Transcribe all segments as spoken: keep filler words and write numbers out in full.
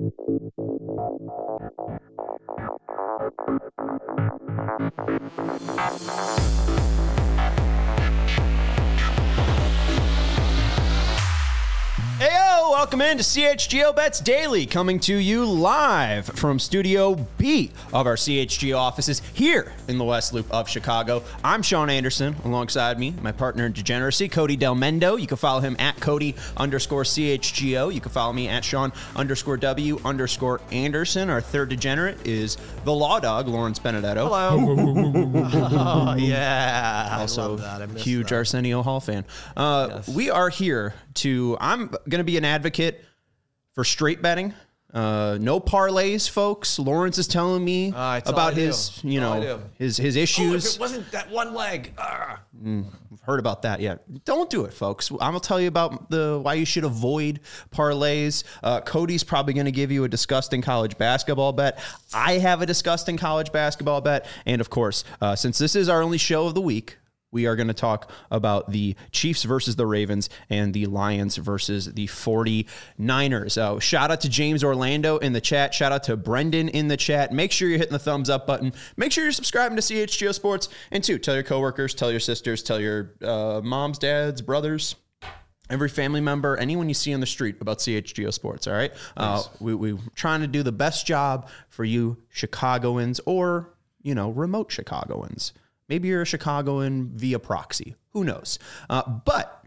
Heyo, welcome in to C H G O Bets Daily, coming to you live from Studio B of our C H G O offices here in the West Loop of Chicago. I'm Sean Anderson, alongside me, my partner in degeneracy, Cody Del Mendo. You can follow him at Cody underscore C H G O. You can follow me at Sean underscore W underscore Anderson. Our third degenerate is the Law Dog, Lawrence Benedetto. Hello. Oh, yeah. Also, I love that. I missed huge that. Arsenio Hall fan. Uh, Yes. We are here to, I'm going to be an advocate for straight betting. Uh, no parlays, folks. Lawrence is telling me Uh, it's all about I do. his, you It's all I know, do. his his Oh, if issues. it wasn't that one leg. Ah. I've heard about that yet. Don't do it, folks. I'm gonna tell you about the why you should avoid parlays. Uh, Cody's probably gonna give you a disgusting college basketball bet. I have a disgusting college basketball bet, and of course, uh, since this is our only show of the week, we are going to talk about the Chiefs versus the Ravens and the Lions versus the forty-niners. Uh, shout out to James Orlando in the chat. Shout out to Brendan in the chat. Make sure you're hitting the thumbs up button. Make sure you're subscribing to C H G O Sports. And two, tell your coworkers, tell your sisters, tell your uh, moms, dads, brothers, every family member, anyone you see on the street about C H G O Sports, all right? Uh, we, we're trying to do the best job for you Chicagoans or, you know, remote Chicagoans. Maybe you're a Chicagoan via proxy. Who knows? Uh, but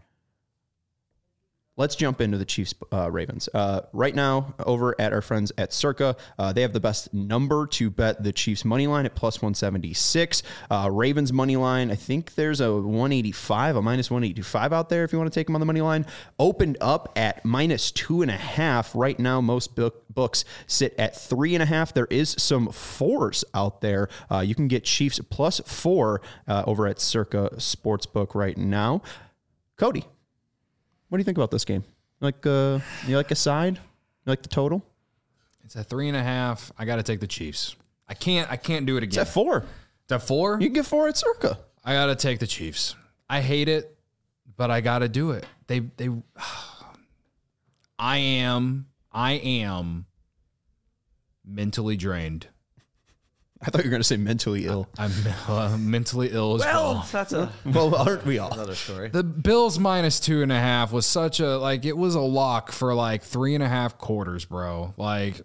let's jump into the Chiefs uh, Ravens. Uh, right now, over at our friends at Circa, uh, they have the best number to bet the Chiefs money line at plus one seventy-six. Uh, Ravens money line, I think there's a one eighty-five, a minus one eighty-five out there if you want to take them on the money line. Opened up at minus two and a half. Right now, most book, books sit at three and a half. There is some fours out there. Uh, you can get Chiefs plus four uh, over at Circa Sportsbook right now. Cody, what do you think about this game? Like, uh, you like a side? You like the total? It's at three and a half. I got to take the Chiefs. I can't. I can't do it It's again. at four. It's at four. You can get four at Circa. I got to take the Chiefs. I hate it, but I got to do it. They. They. I am. I am mentally drained. I thought you were going to say mentally ill. I'm uh, mentally ill as well. Well, that's a, Well, aren't we all? another story. The Bills minus two and a half was such a, like, it was a lock for like three and a half quarters, bro. Like,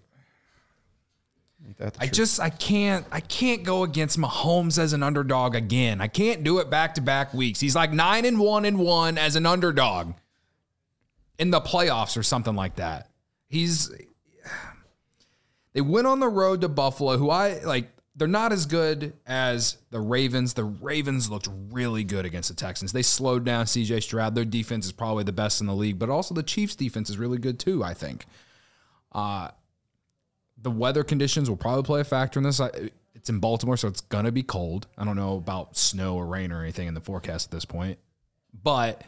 I just, I can't, I can't go against Mahomes as an underdog again. I can't do it back to back weeks. He's like nine and one and one as an underdog in the playoffs or something like that. He's, they went on the road to Buffalo, who I like. They're not as good as the Ravens. The Ravens looked really good against the Texans. They slowed down C J Stroud. Their defense is probably the best in the league, but also the Chiefs' defense is really good too, I think. Uh, the weather conditions will probably play a factor in this. It's in Baltimore, so it's going to be cold. I don't know about snow or rain or anything in the forecast at this point, but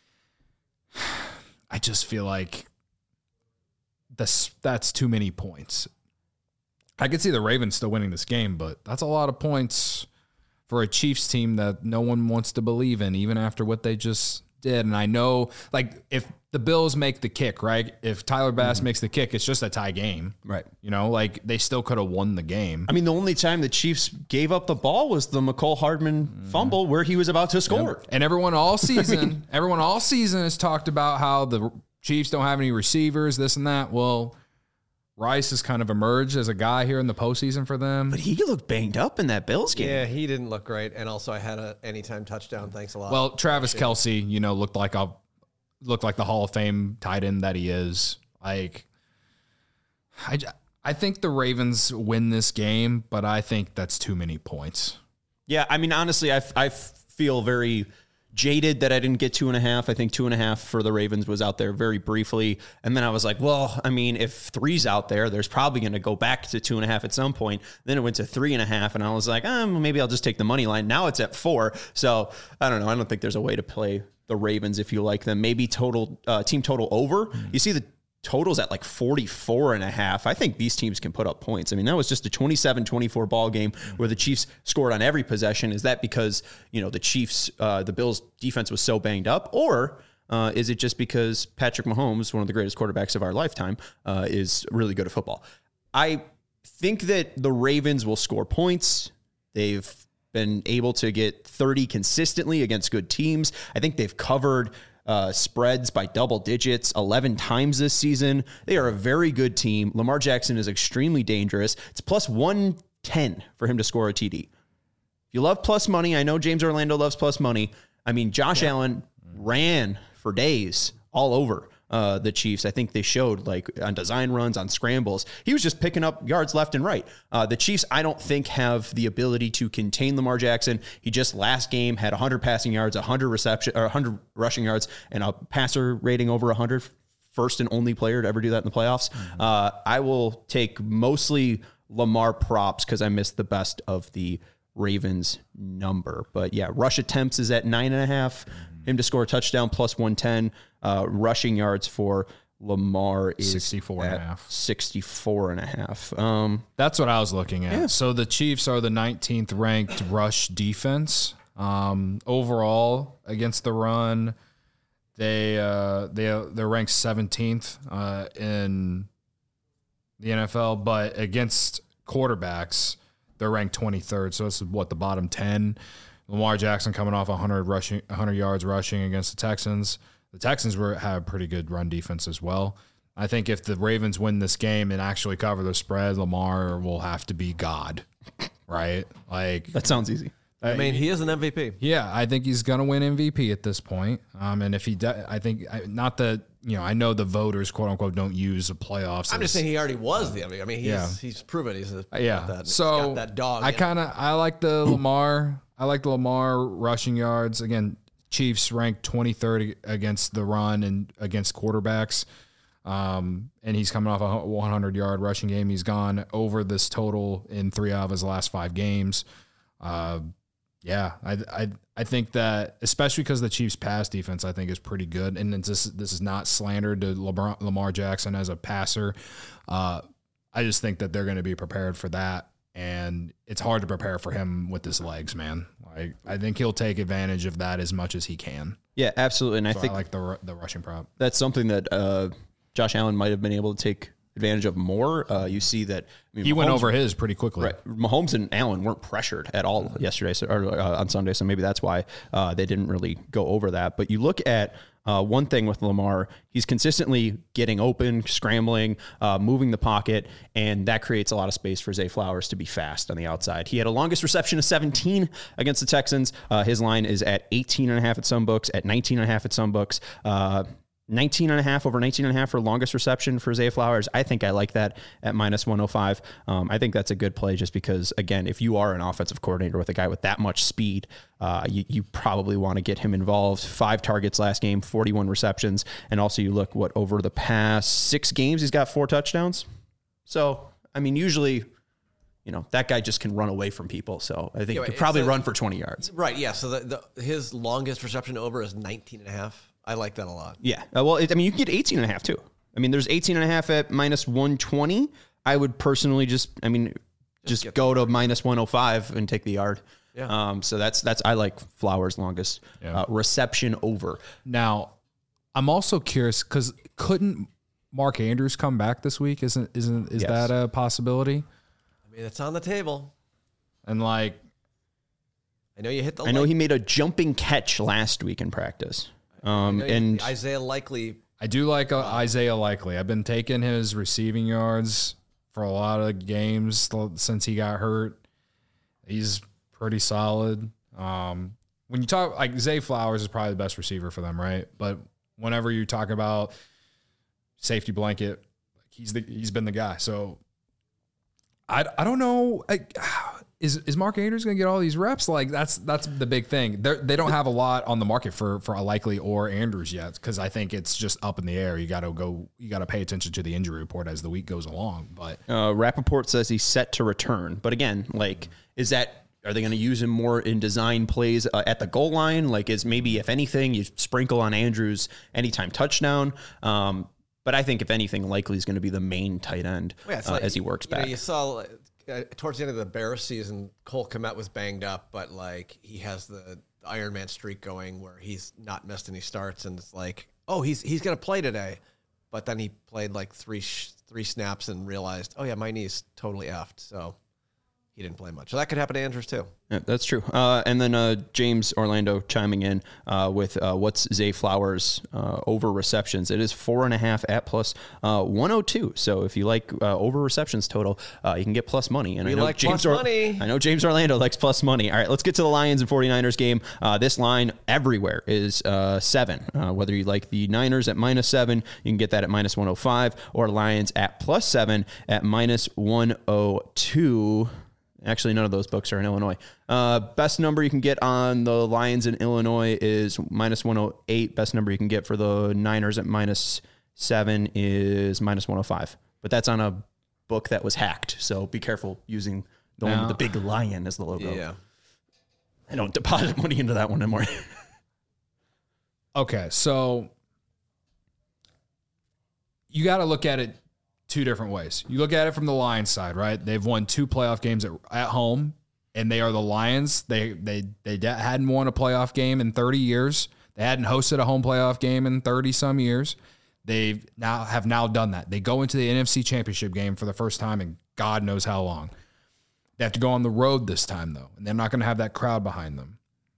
I just feel like this, that's too many points. I could see the Ravens still winning this game, but that's a lot of points for a Chiefs team that no one wants to believe in, even after what they just did. And I know, like, if the Bills make the kick, right? If Tyler Bass mm-hmm. makes the kick, it's just a tie game. Right. You know, like, they still could have won the game. I mean, the only time the Chiefs gave up the ball was the McCole Hardman mm-hmm. fumble where he was about to score. Yep. And everyone all season, I mean, everyone all season has talked about how the Chiefs don't have any receivers, this and that. Well, Rice has kind of emerged as a guy here in the postseason for them. But he looked banged up in that Bills game. Yeah, he didn't look great. And also I had a anytime touchdown. Thanks a lot. Well, Travis Kelce, you know, looked like a looked like the Hall of Fame tight end that he is. Like, I, I think the Ravens win this game, but I think that's too many points. Yeah, I mean, honestly, I, I feel very jaded that I didn't get two and a half. I think two and a half for the Ravens was out there very briefly. And then I was like, well, I mean, if three's out there, there's probably going to go back to two and a half at some point. Then it went to three and a half. And I was like, um, maybe I'll just take the money line. Now it's at four. So I don't know. I don't think there's a way to play the Ravens if you like them. Maybe total uh, team total over. You see the totals at like forty-four and a half. I think these teams can put up points. I mean, that was just a twenty-seven twenty-four ball game where the Chiefs scored on every possession. Is that because, you know, the Chiefs, uh, the Bills defense was so banged up? Or Uh, is it just because Patrick Mahomes, one of the greatest quarterbacks of our lifetime, uh, is really good at football? I think that the Ravens will score points. They've been able to get thirty consistently against good teams. I think they've covered uh, spreads by double digits eleven times this season. They are a very good team. Lamar Jackson is extremely dangerous. It's plus one ten for him to score a T D. If you love plus money, I know James Orlando loves plus money. I mean, Josh yeah. Allen ran for days all over uh, the Chiefs. I think they showed like on design runs, on scrambles. He was just picking up yards left and right. Uh, the Chiefs, I don't think, have the ability to contain Lamar Jackson. He just last game had one hundred passing yards, one hundred reception, or one hundred rushing yards, and a passer rating over one hundred. First and only player to ever do that in the playoffs. Mm-hmm. Uh, I will take mostly Lamar props because I missed the best of the Ravens number. But yeah, rush attempts is at nine and a half. Mm-hmm. Him to score a touchdown plus one ten. Uh, rushing yards for Lamar is sixty-four and a half. sixty-four and a half. Um, That's what I was looking at. Yeah. So the Chiefs are the nineteenth ranked rush defense. Um, overall against the run, they uh, they they're ranked seventeenth uh, in the N F L, but against quarterbacks, they're ranked twenty-third. So it's what, the bottom ten. Lamar Jackson coming off one hundred rushing, one hundred yards rushing against the Texans. The Texans were have a pretty good run defense as well. I think if the Ravens win this game and actually cover the spread, Lamar will have to be God, right? Like that sounds easy. I mean, he is an M V P. Yeah, I think he's going to win M V P at this point. Um, and if he does, I think not that, you know, I know the voters, quote unquote, don't use the playoffs. I'm as, just saying he already was the M V P. I mean, he's yeah. he's proven he's a, yeah. that, so got that dog. I kind of I like the Lamar. I like the Lamar rushing yards. Again, Chiefs ranked twenty-third against the run and against quarterbacks. Um, and he's coming off a one hundred yard rushing game. He's gone over this total in three out of his last five games. Uh, yeah, I, I, I think that especially because the Chiefs pass defense, I think is pretty good. And this, this is not slander to Lamar, Lamar Jackson as a passer. Uh, I just think that they're going to be prepared for that. And it's hard to prepare for him with his legs, man. Like, I think he'll take advantage of that as much as he can. Yeah, absolutely. And so I think I like the the rushing prop. That's something that uh, Josh Allen might have been able to take advantage of more. Uh, you see that I mean, he Mahomes, went over his pretty quickly. Right. Mahomes and Allen weren't pressured at all mm-hmm. yesterday so, or uh, on Sunday, so maybe that's why uh, they didn't really go over that. But you look at uh, one thing with Lamar, he's consistently getting open, scrambling, uh, moving the pocket, and that creates a lot of space for Zay Flowers to be fast on the outside. He had a longest reception of seventeen against the Texans. Uh, his line is at eighteen and a half at some books, at nineteen and a half at some books. Uh, nineteen and a half over nineteen and a half for longest reception for Zay Flowers. I think I like that at minus one oh five. Um, I think that's a good play just because, again, if you are an offensive coordinator with a guy with that much speed, uh, you, you probably want to get him involved. Five targets last game, forty-one receptions. And also you look what over the past six games, he's got four touchdowns. So, I mean, usually, you know, that guy just can run away from people. So I think yeah, he could probably a, run for twenty yards. Right. Yeah. So the, the, his longest reception over is nineteen and a half. I like that a lot. Yeah. Uh, well, it, I mean, you can get eighteen and a half too. I mean, there's eighteen and a half at minus one twenty. I would personally just, I mean, just, just go to minus one oh five and take the yard. Yeah. Um, so that's, that's, I like Flowers' longest yeah. uh, reception over. Now, I'm also curious because couldn't Mark Andrews come back this week? Isn't, isn't, is yes. that a possibility? I mean, it's on the table. And like, I know you hit the, I know he made a jumping catch last week in practice. Um, and Isaiah Likely. I do like uh, Isaiah Likely. I've been taking his receiving yards for a lot of games since he got hurt. He's pretty solid. Um, when you talk, like Zay Flowers is probably the best receiver for them, right? But whenever you talk about safety blanket, he's the he's been the guy. So I I don't know. I, Is is Mark Andrews going to get all these reps? Like that's that's the big thing. They they don't have a lot on the market for for a Likely or Andrews yet because I think it's just up in the air. You got to go. You got to pay attention to the injury report as the week goes along. But uh, Rappaport says he's set to return. But again, like, is that are they going to use him more in design plays uh, at the goal line? Like, is maybe if anything you sprinkle on Andrews anytime touchdown. Um, but I think if anything, Likely is going to be the main tight end well, yeah, uh, like, as he works you back. Know, you saw. Uh, towards the end of the Bears season, Cole Kmet was banged up, but like he has the the Iron Man streak going where he's not missed any starts, and it's like, oh, he's he's gonna play today, but then he played like three sh- three snaps and realized, oh yeah, my knee's totally effed, so he didn't play much. So that could happen to Andrews too. Yeah, that's true. Uh, and then uh, James Orlando chiming in uh, with uh, what's Zay Flowers uh, over receptions. It is four and a half at plus uh, one oh two. So if you like uh, over receptions total, uh, you can get plus money. And we I know like James plus or- money. I know James Orlando likes plus money. All right, let's get to the Lions and 49ers game. Uh, this line everywhere is uh, seven. Uh, whether you like the Niners at minus seven, you can get that at minus one oh five, or Lions at plus seven at minus one oh two. Actually, none of those books are in Illinois. Uh, best number you can get on the Lions in Illinois is minus one oh eight. Best number you can get for the Niners at minus seven is minus one oh five. But that's on a book that was hacked. So be careful using the one with the big lion as the logo. Yeah. I don't deposit money into that one anymore. Okay, so you got to look at it two different ways. You look at it from the Lions side, right? They've won two playoff games at, at home, and they are the Lions. They they they hadn't won a playoff game in thirty years. They hadn't hosted a home playoff game in thirty some years. They now have now done that. They go into the N F C Championship game for the first time in God knows how long. They have to go on the road this time though, and they're not going to have that crowd behind them.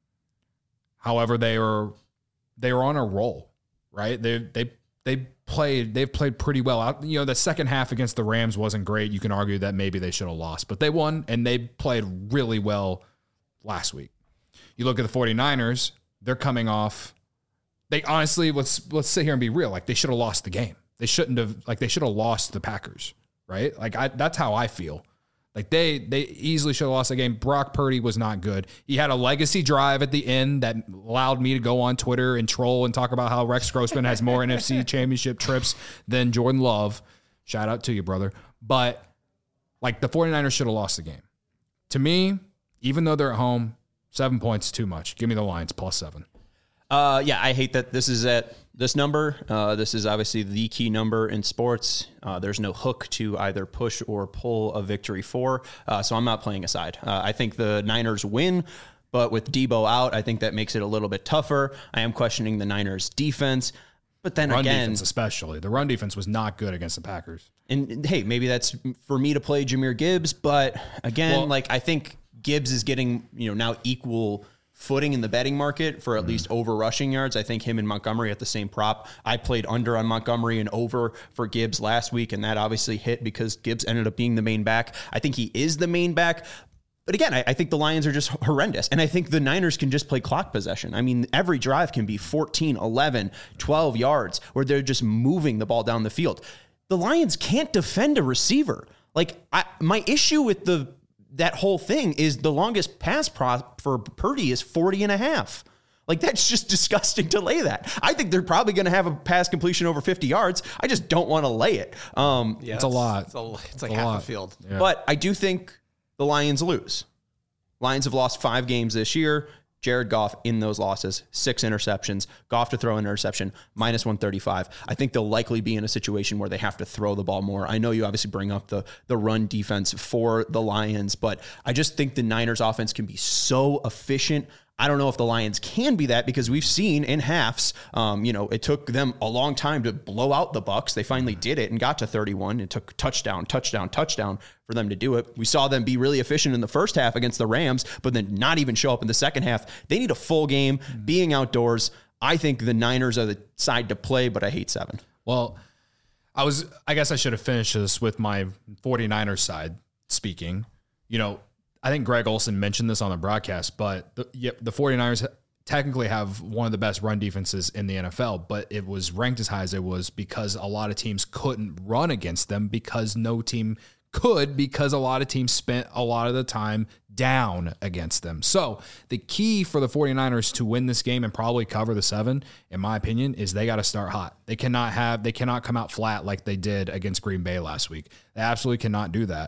However, they are they are on a roll, right? They they they played they've played pretty well out. You know, the second half against the Rams wasn't great. You can argue that maybe they should have lost, but they won and they played really well last week. You look at the 49ers, they're coming off they honestly let's let's sit here and be real. Like they should have lost the game. They shouldn't have like they should have lost the Packers, right? Like I that's how I feel. Like they they easily should have lost the game. Brock Purdy was not good. He had a legacy drive at the end that allowed me to go on Twitter and troll and talk about how Rex Grossman has more N F C championship trips than Jordan Love. Shout out to you, brother. But like the 49ers should have lost the game. To me, even though they're at home, seven points is too much. Give me the Lions plus seven. Uh, yeah, I hate that this is at this number. Uh, this is obviously the key number in sports. Uh, there's no hook to either push or pull a victory for. Uh, so I'm not playing a side. Uh, I think the Niners win, but with Debo out, I think that makes it a little bit tougher. I am questioning the Niners defense. But then run again, defense especially. The run defense was not good against the Packers. And, and hey, maybe that's for me to play Jahmyr Gibbs. But again, well, like I think Gibbs is getting, you know, now equal footing in the betting market for at mm. least over rushing yards. I think him and Montgomery at the same prop. I played under on Montgomery and over for Gibbs last week, and that obviously hit because Gibbs ended up being the main back. I think he is the main back. But again, I, I think the Lions are just horrendous. And I think the Niners can just play clock possession. I mean, every drive can be fourteen, eleven, twelve yards where they're just moving the ball down the field. The Lions can't defend a receiver. Like, I, my issue with the that whole thing is the longest pass prop for Purdy is forty and a half. Like, that's just disgusting to lay that. I think they're probably going to have a pass completion over fifty yards. I just don't want to lay it. Um, yeah, it's a lot. It's, a, it's like it's half a a field. Yeah. But I do think the Lions lose. Lions have lost five games this year. Jared Goff in those losses, six interceptions. Goff to throw an interception, minus one thirty-five. I think they'll likely be in a situation where they have to throw the ball more. I know you obviously bring up the, the run defense for the Lions, but I just think the Niners offense can be so efficient. I don't know if the Lions can be that because we've seen in halves, um, you know, it took them a long time to blow out the Bucs. They finally did it and got to thirty-one. It took touchdown, touchdown, touchdown for them to do it. We saw them be really efficient in the first half against the Rams, but then not even show up in the second half. They need a full game, being outdoors. I think the Niners are the side to play, but I hate seven. Well, I was, I guess I should have finished this with my 49ers side speaking. You know, I think Greg Olsen mentioned this on the broadcast, but the, yeah, the 49ers technically have one of the best run defenses in the N F L, but it was ranked as high as it was because a lot of teams couldn't run against them because no team could because a lot of teams spent a lot of the time down against them. So the key for the 49ers to win this game and probably cover the seven, in my opinion, is they got to start hot. They cannot have, they cannot come out flat like they did against Green Bay last week. They absolutely cannot do that.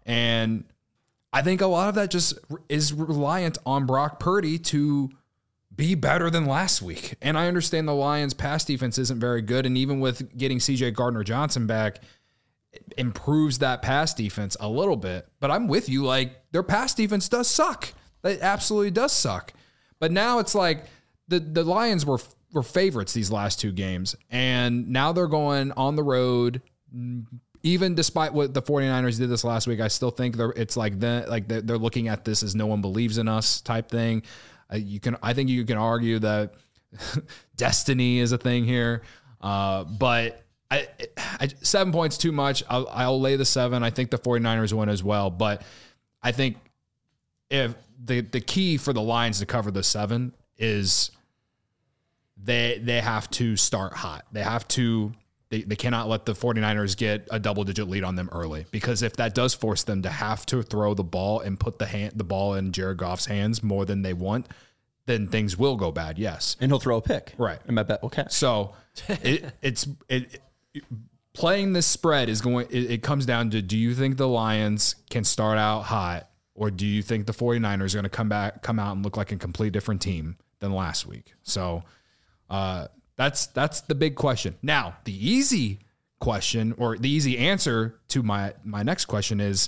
And I think a lot of that just is reliant on Brock Purdy to be better than last week. And I understand the Lions' pass defense isn't very good. And even with getting C J Gardner-Johnson back, it improves that pass defense a little bit. But I'm with you. Like, their pass defense does suck. It absolutely does suck. But now it's like the, the Lions were were favorites these last two games, and now they're going on the road. Even despite what the 49ers did this last week, I still think they're, it's like the, like they're, they're looking at this as no one believes in us type thing. Uh, you can, I think you can argue that destiny is a thing here, uh, but I, I, seven points too much. I'll, I'll lay the seven. I think the 49ers win as well, but I think if the the key for the Lions to cover the seven is they they have to start hot. They have to. They, they cannot let the 49ers get a double-digit lead on them early, because if that does force them to have to throw the ball and put the hand, the ball in Jared Goff's hands more than they want, then things will go bad, yes. And he'll throw a pick. Right. And my bet will catch. So it, it's it, it, playing this spread is going it, it comes down to, do you think the Lions can start out hot, or do you think the 49ers are going to come back come out and look like a completely different team than last week? So uh That's that's the big question. Now, the easy question, or the easy answer to my, my next question is,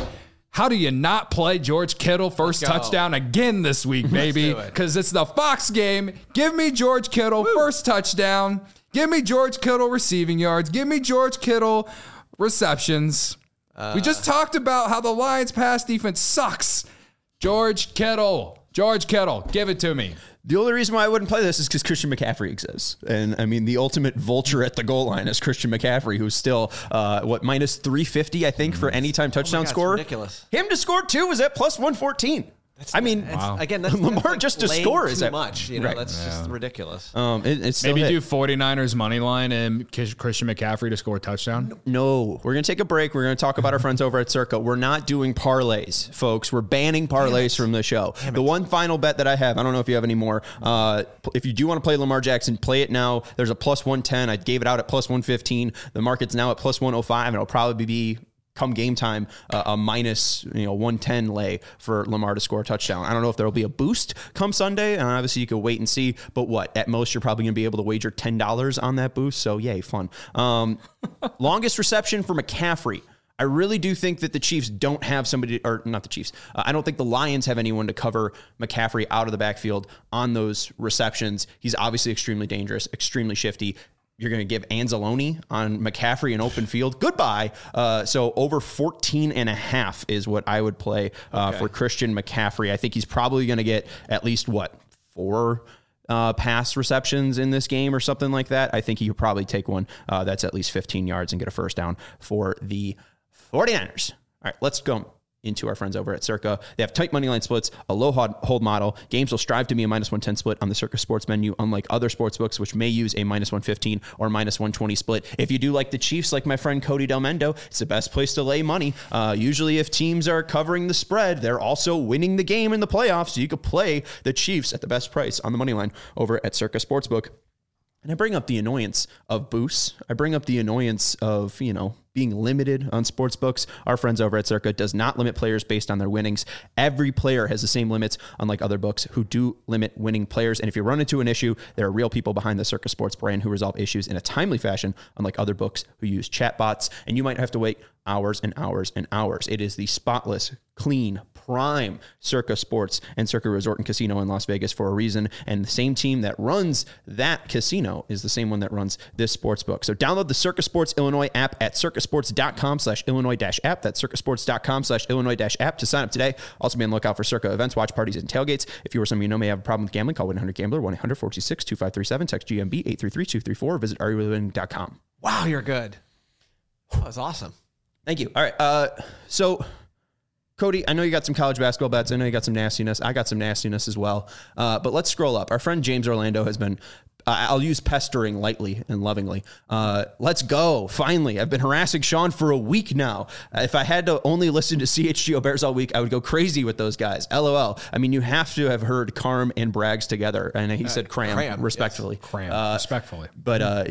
how do you not play George Kittle first touchdown again this week, baby? Because it. it's the Fox game. Give me George Kittle Woo. first touchdown. Give me George Kittle receiving yards. Give me George Kittle receptions. Uh, we just talked about how the Lions pass defense sucks. George Kittle. George Kittle. Give it to me. The only reason why I wouldn't play this is because Christian McCaffrey exists. And I mean, the ultimate vulture at the goal line is Christian McCaffrey, who's still, uh, what, minus three fifty, I think, for anytime touchdown oh God, scorer. Ridiculous. Him to score two is at plus one fourteen. That's, I mean, wow. again, that's, Lamar that's like just to score is too at, much. You know, right. that's yeah. just ridiculous. Um, it, it's Maybe hit. do 49ers money line and Christian McCaffrey to score a touchdown. No, we're going to take a break. We're going to talk about our friends over at Circa. We're not doing parlays, folks. We're banning parlays from the show. The one final bet that I have, I don't know if you have any more. Uh, if you do want to play Lamar Jackson, play it now. There's a plus one ten. I gave it out at plus one fifteen. The market's now at plus one oh five, and it'll probably be, come game time, uh, a minus, you know, one ten lay for Lamar to score a touchdown. I don't know if there'll be a boost come Sunday, and obviously you could wait and see, but what, at most you're probably going to be able to wager ten dollars on that boost, so yay, fun. Um, longest reception for McCaffrey. I really do think that the Chiefs don't have somebody, or not the Chiefs, uh, I don't think the Lions have anyone to cover McCaffrey out of the backfield on those receptions. He's obviously extremely dangerous, extremely shifty. You're going to give Anzalone on McCaffrey in open field. Goodbye. Uh, so over fourteen and a half is what I would play uh, okay. for Christian McCaffrey. I think he's probably going to get at least, what, four uh, pass receptions in this game or something like that. I think he could probably take one uh, that's at least fifteen yards and get a first down for the 49ers. All right, let's go into our friends over at Circa. They have tight money line splits, a low hold model. Games will strive to be a minus one ten split on the Circa Sports menu, unlike other sports books, which may use a minus one fifteen or minus one twenty split. If you do like the Chiefs, like my friend Cody Delmendo, it's the best place to lay money. Uh, usually if teams are covering the spread, they're also winning the game in the playoffs, so you could play the Chiefs at the best price on the money line over at Circa Sportsbook. And I bring up the annoyance of boosts. I bring up the annoyance of, you know, being limited on sports books. Our friends over at Circa does not limit players based on their winnings. Every player has the same limits, unlike other books who do limit winning players. And if you run into an issue, there are real people behind the Circa Sports brand who resolve issues in a timely fashion, unlike other books who use chatbots. And you might have to wait hours and hours and hours. It is the spotless, clean, prime Circa Sports and Circa Resort and Casino in Las Vegas for a reason. And the same team that runs that casino is the same one that runs this sports book. So download the Circa Sports Illinois app at circasports.com slash Illinois dash app. That's circasports.com slash Illinois dash app to sign up today. Also be on the lookout for Circa events, watch parties, and tailgates. If you or someone you know may have a problem with gambling, call one eight hundred gambler, one eight hundred four two six two five three seven, text G M B eight three three two three four, visit are you really winning dot com. Wow, you're good. That was awesome. Thank you. All right. Uh, so, Cody, I know you got some college basketball bets. I know you got some nastiness. I got some nastiness as well. Uh, but let's scroll up. Our friend James Orlando has been, uh, I'll use pestering lightly and lovingly. Uh, let's go. Finally. I've been harassing Sean for a week now. If I had to only listen to C H G O Bears all week, I would go crazy with those guys. LOL. I mean, you have to have heard Carm and Braggs together. And he uh, said cram, cram respectfully. Yes. Cram, uh, respectfully. But, uh,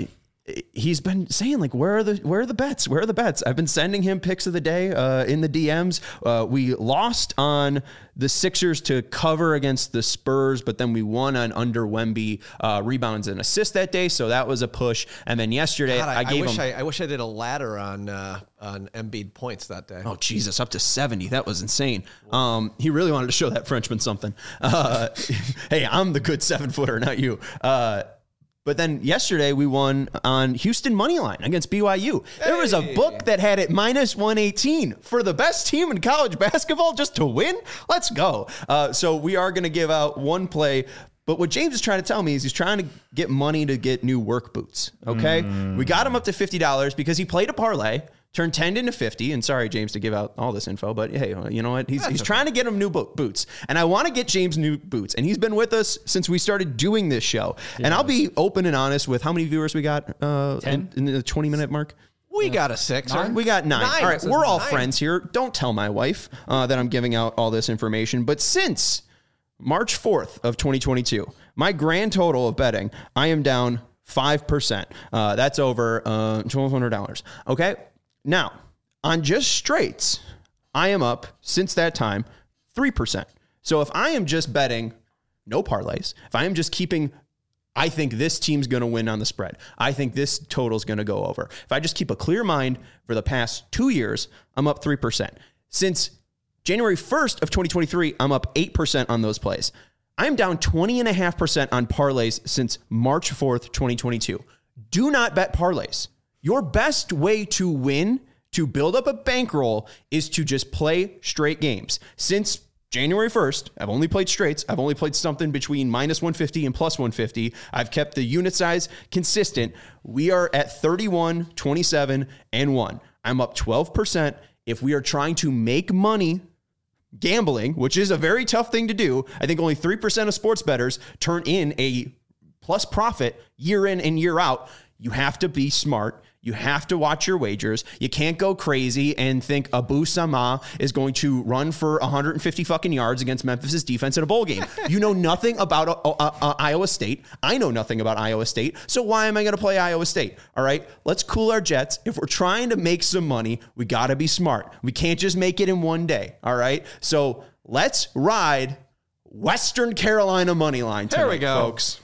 he's been saying like, where are the where are the bets? Where are the bets? I've been sending him picks of the day uh, in the D Ms. Uh, we lost on the Sixers to cover against the Spurs, but then we won on under Wemby uh, rebounds and assists that day, so that was a push. And then yesterday, God, I, I gave I wish him. I, I wish I did a ladder on uh, on Embiid points that day. Oh Jesus, up to seventy. That was insane. Um, he really wanted to show that Frenchman something. Uh, hey, I'm the good seven footer, not you. Uh, But then yesterday we won on Houston money line against B Y U. Hey. There was a book that had it minus one eighteen for the best team in college basketball just to win. Let's go. Uh, so we are going to give out one play. But what James is trying to tell me is he's trying to get money to get new work boots. Okay. Mm. We got him up to fifty dollars because he played a parlay, turned ten into fifty. And sorry, James, to give out all this info, but hey, you know what? He's, he's okay. trying to get him new bo- boots. And I want to get James new boots. And he's been with us since we started doing this show. Yeah. And I'll be open and honest with how many viewers we got uh, in, in the twenty minute mark. We got a six. Nine? We got nine. nine. All right, we're all nine. friends here. Don't tell my wife uh, that I'm giving out all this information. But since March fourth of twenty twenty-two, my grand total of betting, I am down five percent. Uh, that's over uh, twelve hundred dollars. Okay. Now, on just straights, I am up since that time three percent. So if I am just betting no parlays, if I am just keeping, I think this team's going to win on the spread, I think this total's going to go over. If I just keep a clear mind for the past two years, I'm up three percent. Since January first of twenty twenty-three, I'm up eight percent on those plays. I'm down twenty point five percent on parlays since March fourth, twenty twenty-two. Do not bet parlays. Your best way to win, to build up a bankroll, is to just play straight games. Since January first, I've only played straights. I've only played something between minus one fifty and plus one fifty. I've kept the unit size consistent. We are at thirty-one, twenty-seven, and one. I'm up twelve percent. If we are trying to make money gambling, which is a very tough thing to do, I think only three percent of sports bettors turn in a plus profit year in and year out. You have to be smart. You have to watch your wagers. You can't go crazy and think Abu Sama is going to run for one hundred fifty fucking yards against Memphis's defense in a bowl game. You know nothing about uh, uh, uh, Iowa State. I know nothing about Iowa State. So why am I going to play Iowa State? All right, let's cool our jets. If we're trying to make some money, we got to be smart. We can't just make it in one day. All right, so let's ride Western Carolina money line tonight, there we go, folks.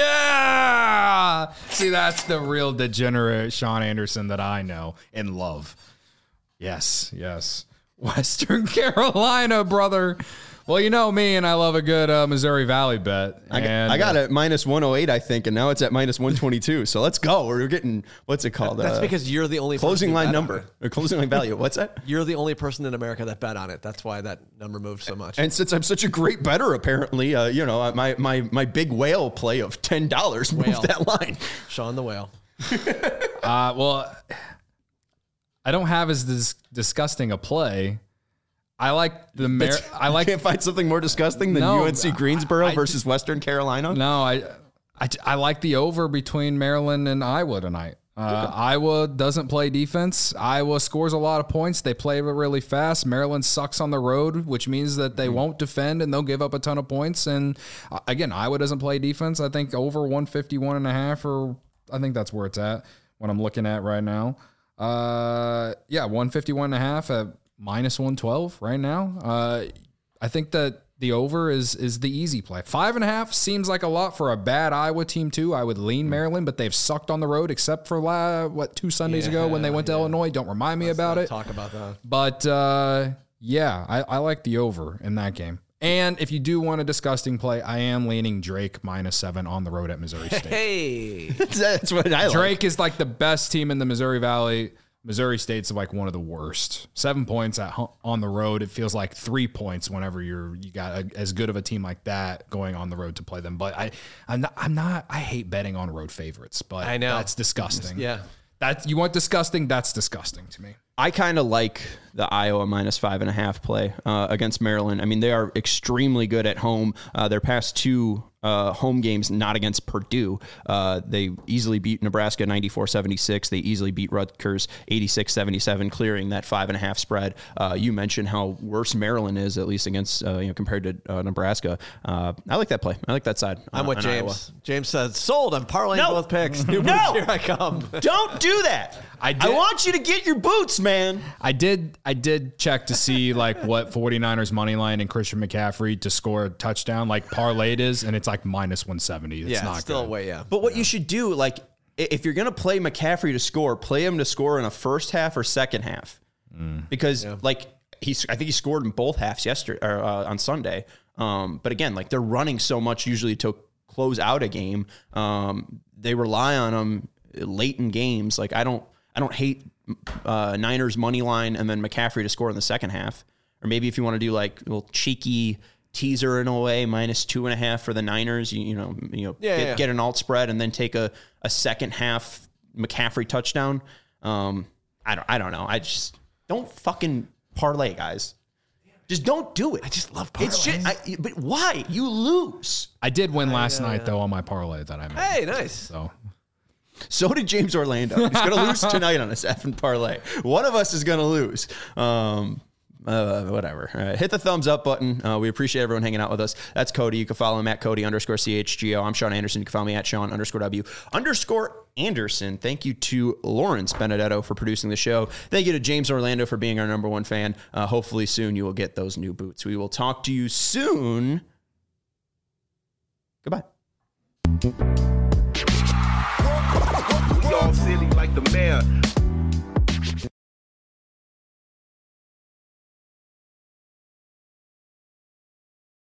Yeah. See, that's the real degenerate Sean Anderson that I know and love. Yes, yes. Western Carolina, brother. Well, you know me, and I love a good uh, Missouri Valley bet. I got, and, I got uh, it minus one oh eight, I think, and now it's at minus one twenty-two. So let's go. We're getting, what's it called? That's uh, because you're the only closing line bet number or closing line value. What's that? You're the only person in America that bet on it. That's why that number moved so much. And since I'm such a great bettor, apparently, uh, you know, my my my big whale play of ten dollars moved that line. Sean the Whale. uh, well, I don't have as dis- disgusting a play. I like the Mar- I like can't find something more disgusting than no, U N C Greensboro I, I, versus Western Carolina. No, I, I I like the over between Maryland and Iowa tonight. Uh, okay. Iowa doesn't play defense. Iowa scores a lot of points. They play really fast. Maryland sucks on the road, which means that they mm-hmm. won't defend and they'll give up a ton of points. And uh, again, Iowa doesn't play defense. I think over one fifty-one and a half, or I think that's where it's at when I'm looking at right now. Uh, yeah, one fifty-one and a half at minus one twelve right now. Uh, I think that the over is is the easy play. Five and a half seems like a lot for a bad Iowa team too. I would lean Maryland, but they've sucked on the road except for la, what two Sundays yeah, ago when they went to yeah. Illinois. Don't remind me Let's about it. Talk about that. But uh, yeah, I, I like the over in that game. And if you do want a disgusting play, I am leaning Drake minus seven on the road at Missouri State. Hey, that's what I like. Drake is like the best team in the Missouri Valley. Missouri State's like one of the worst. Seven points at on the road. It feels like three points whenever you're you got a, as good of a team like that going on the road to play them. But I, I'm not. I'm not I hate betting on road favorites. But I know that's disgusting. Yeah, that you want disgusting. That's disgusting to me. I kind of like the Iowa minus five and a half play uh, against Maryland. I mean, they are extremely good at home. Uh, their past two uh, home games, not against Purdue. Uh, they easily beat Nebraska ninety-four seventy-six. They easily beat Rutgers eighty-six seventy-seven, clearing that five and a half spread. Uh, you mentioned how worse Maryland is, at least against uh, you know compared to uh, Nebraska. Uh, I like that play. I like that side. I'm uh, with James. James said, "Sold. I'm parlaying No. both picks. No. Here I come." Don't do that. I I, did- want you to get your boots, man. I did I did check to see like what 49ers money line and Christian McCaffrey to score a touchdown like parlayed is, and it's like minus one seventy. It's Yeah, not it's still good. way. Yeah, But what you should do, like, i- if you're going to play McCaffrey to score, play him to score in a first half or second half. Because, like, he's, I think he scored in both halves yesterday or uh, on Sunday. Um, but again, like, they're running so much usually to close out a game. Um, they rely on him late in games. Like, I don't, I don't hate uh, Niners money line and then McCaffrey to score in the second half. Or maybe if you want to do like a little cheeky teaser in a way, minus two and a half for the Niners, you, you know, you know, Yeah, get, yeah. get an alt spread and then take a, a second half McCaffrey touchdown. Um, I don't, I don't know. I just don't fucking parlay, guys. Just don't do it. I just love It's just, I, but why? You lose. I did win last night though on my parlay that I made. Hey, nice. So So did James Orlando. He's going to lose tonight on his effing parlay. One of us is going to lose. Um, uh, whatever. All right. Hit the thumbs up button. Uh, we appreciate everyone hanging out with us. That's Cody. You can follow him at Cody underscore C H G O. I'm Sean Anderson. You can follow me at Sean underscore W underscore Anderson. Thank you to Lawrence Benedetto for producing the show. Thank you to James Orlando for being our number one fan. Uh, hopefully soon you will get those new boots. We will talk to you soon. Goodbye. We all silly like the mayor.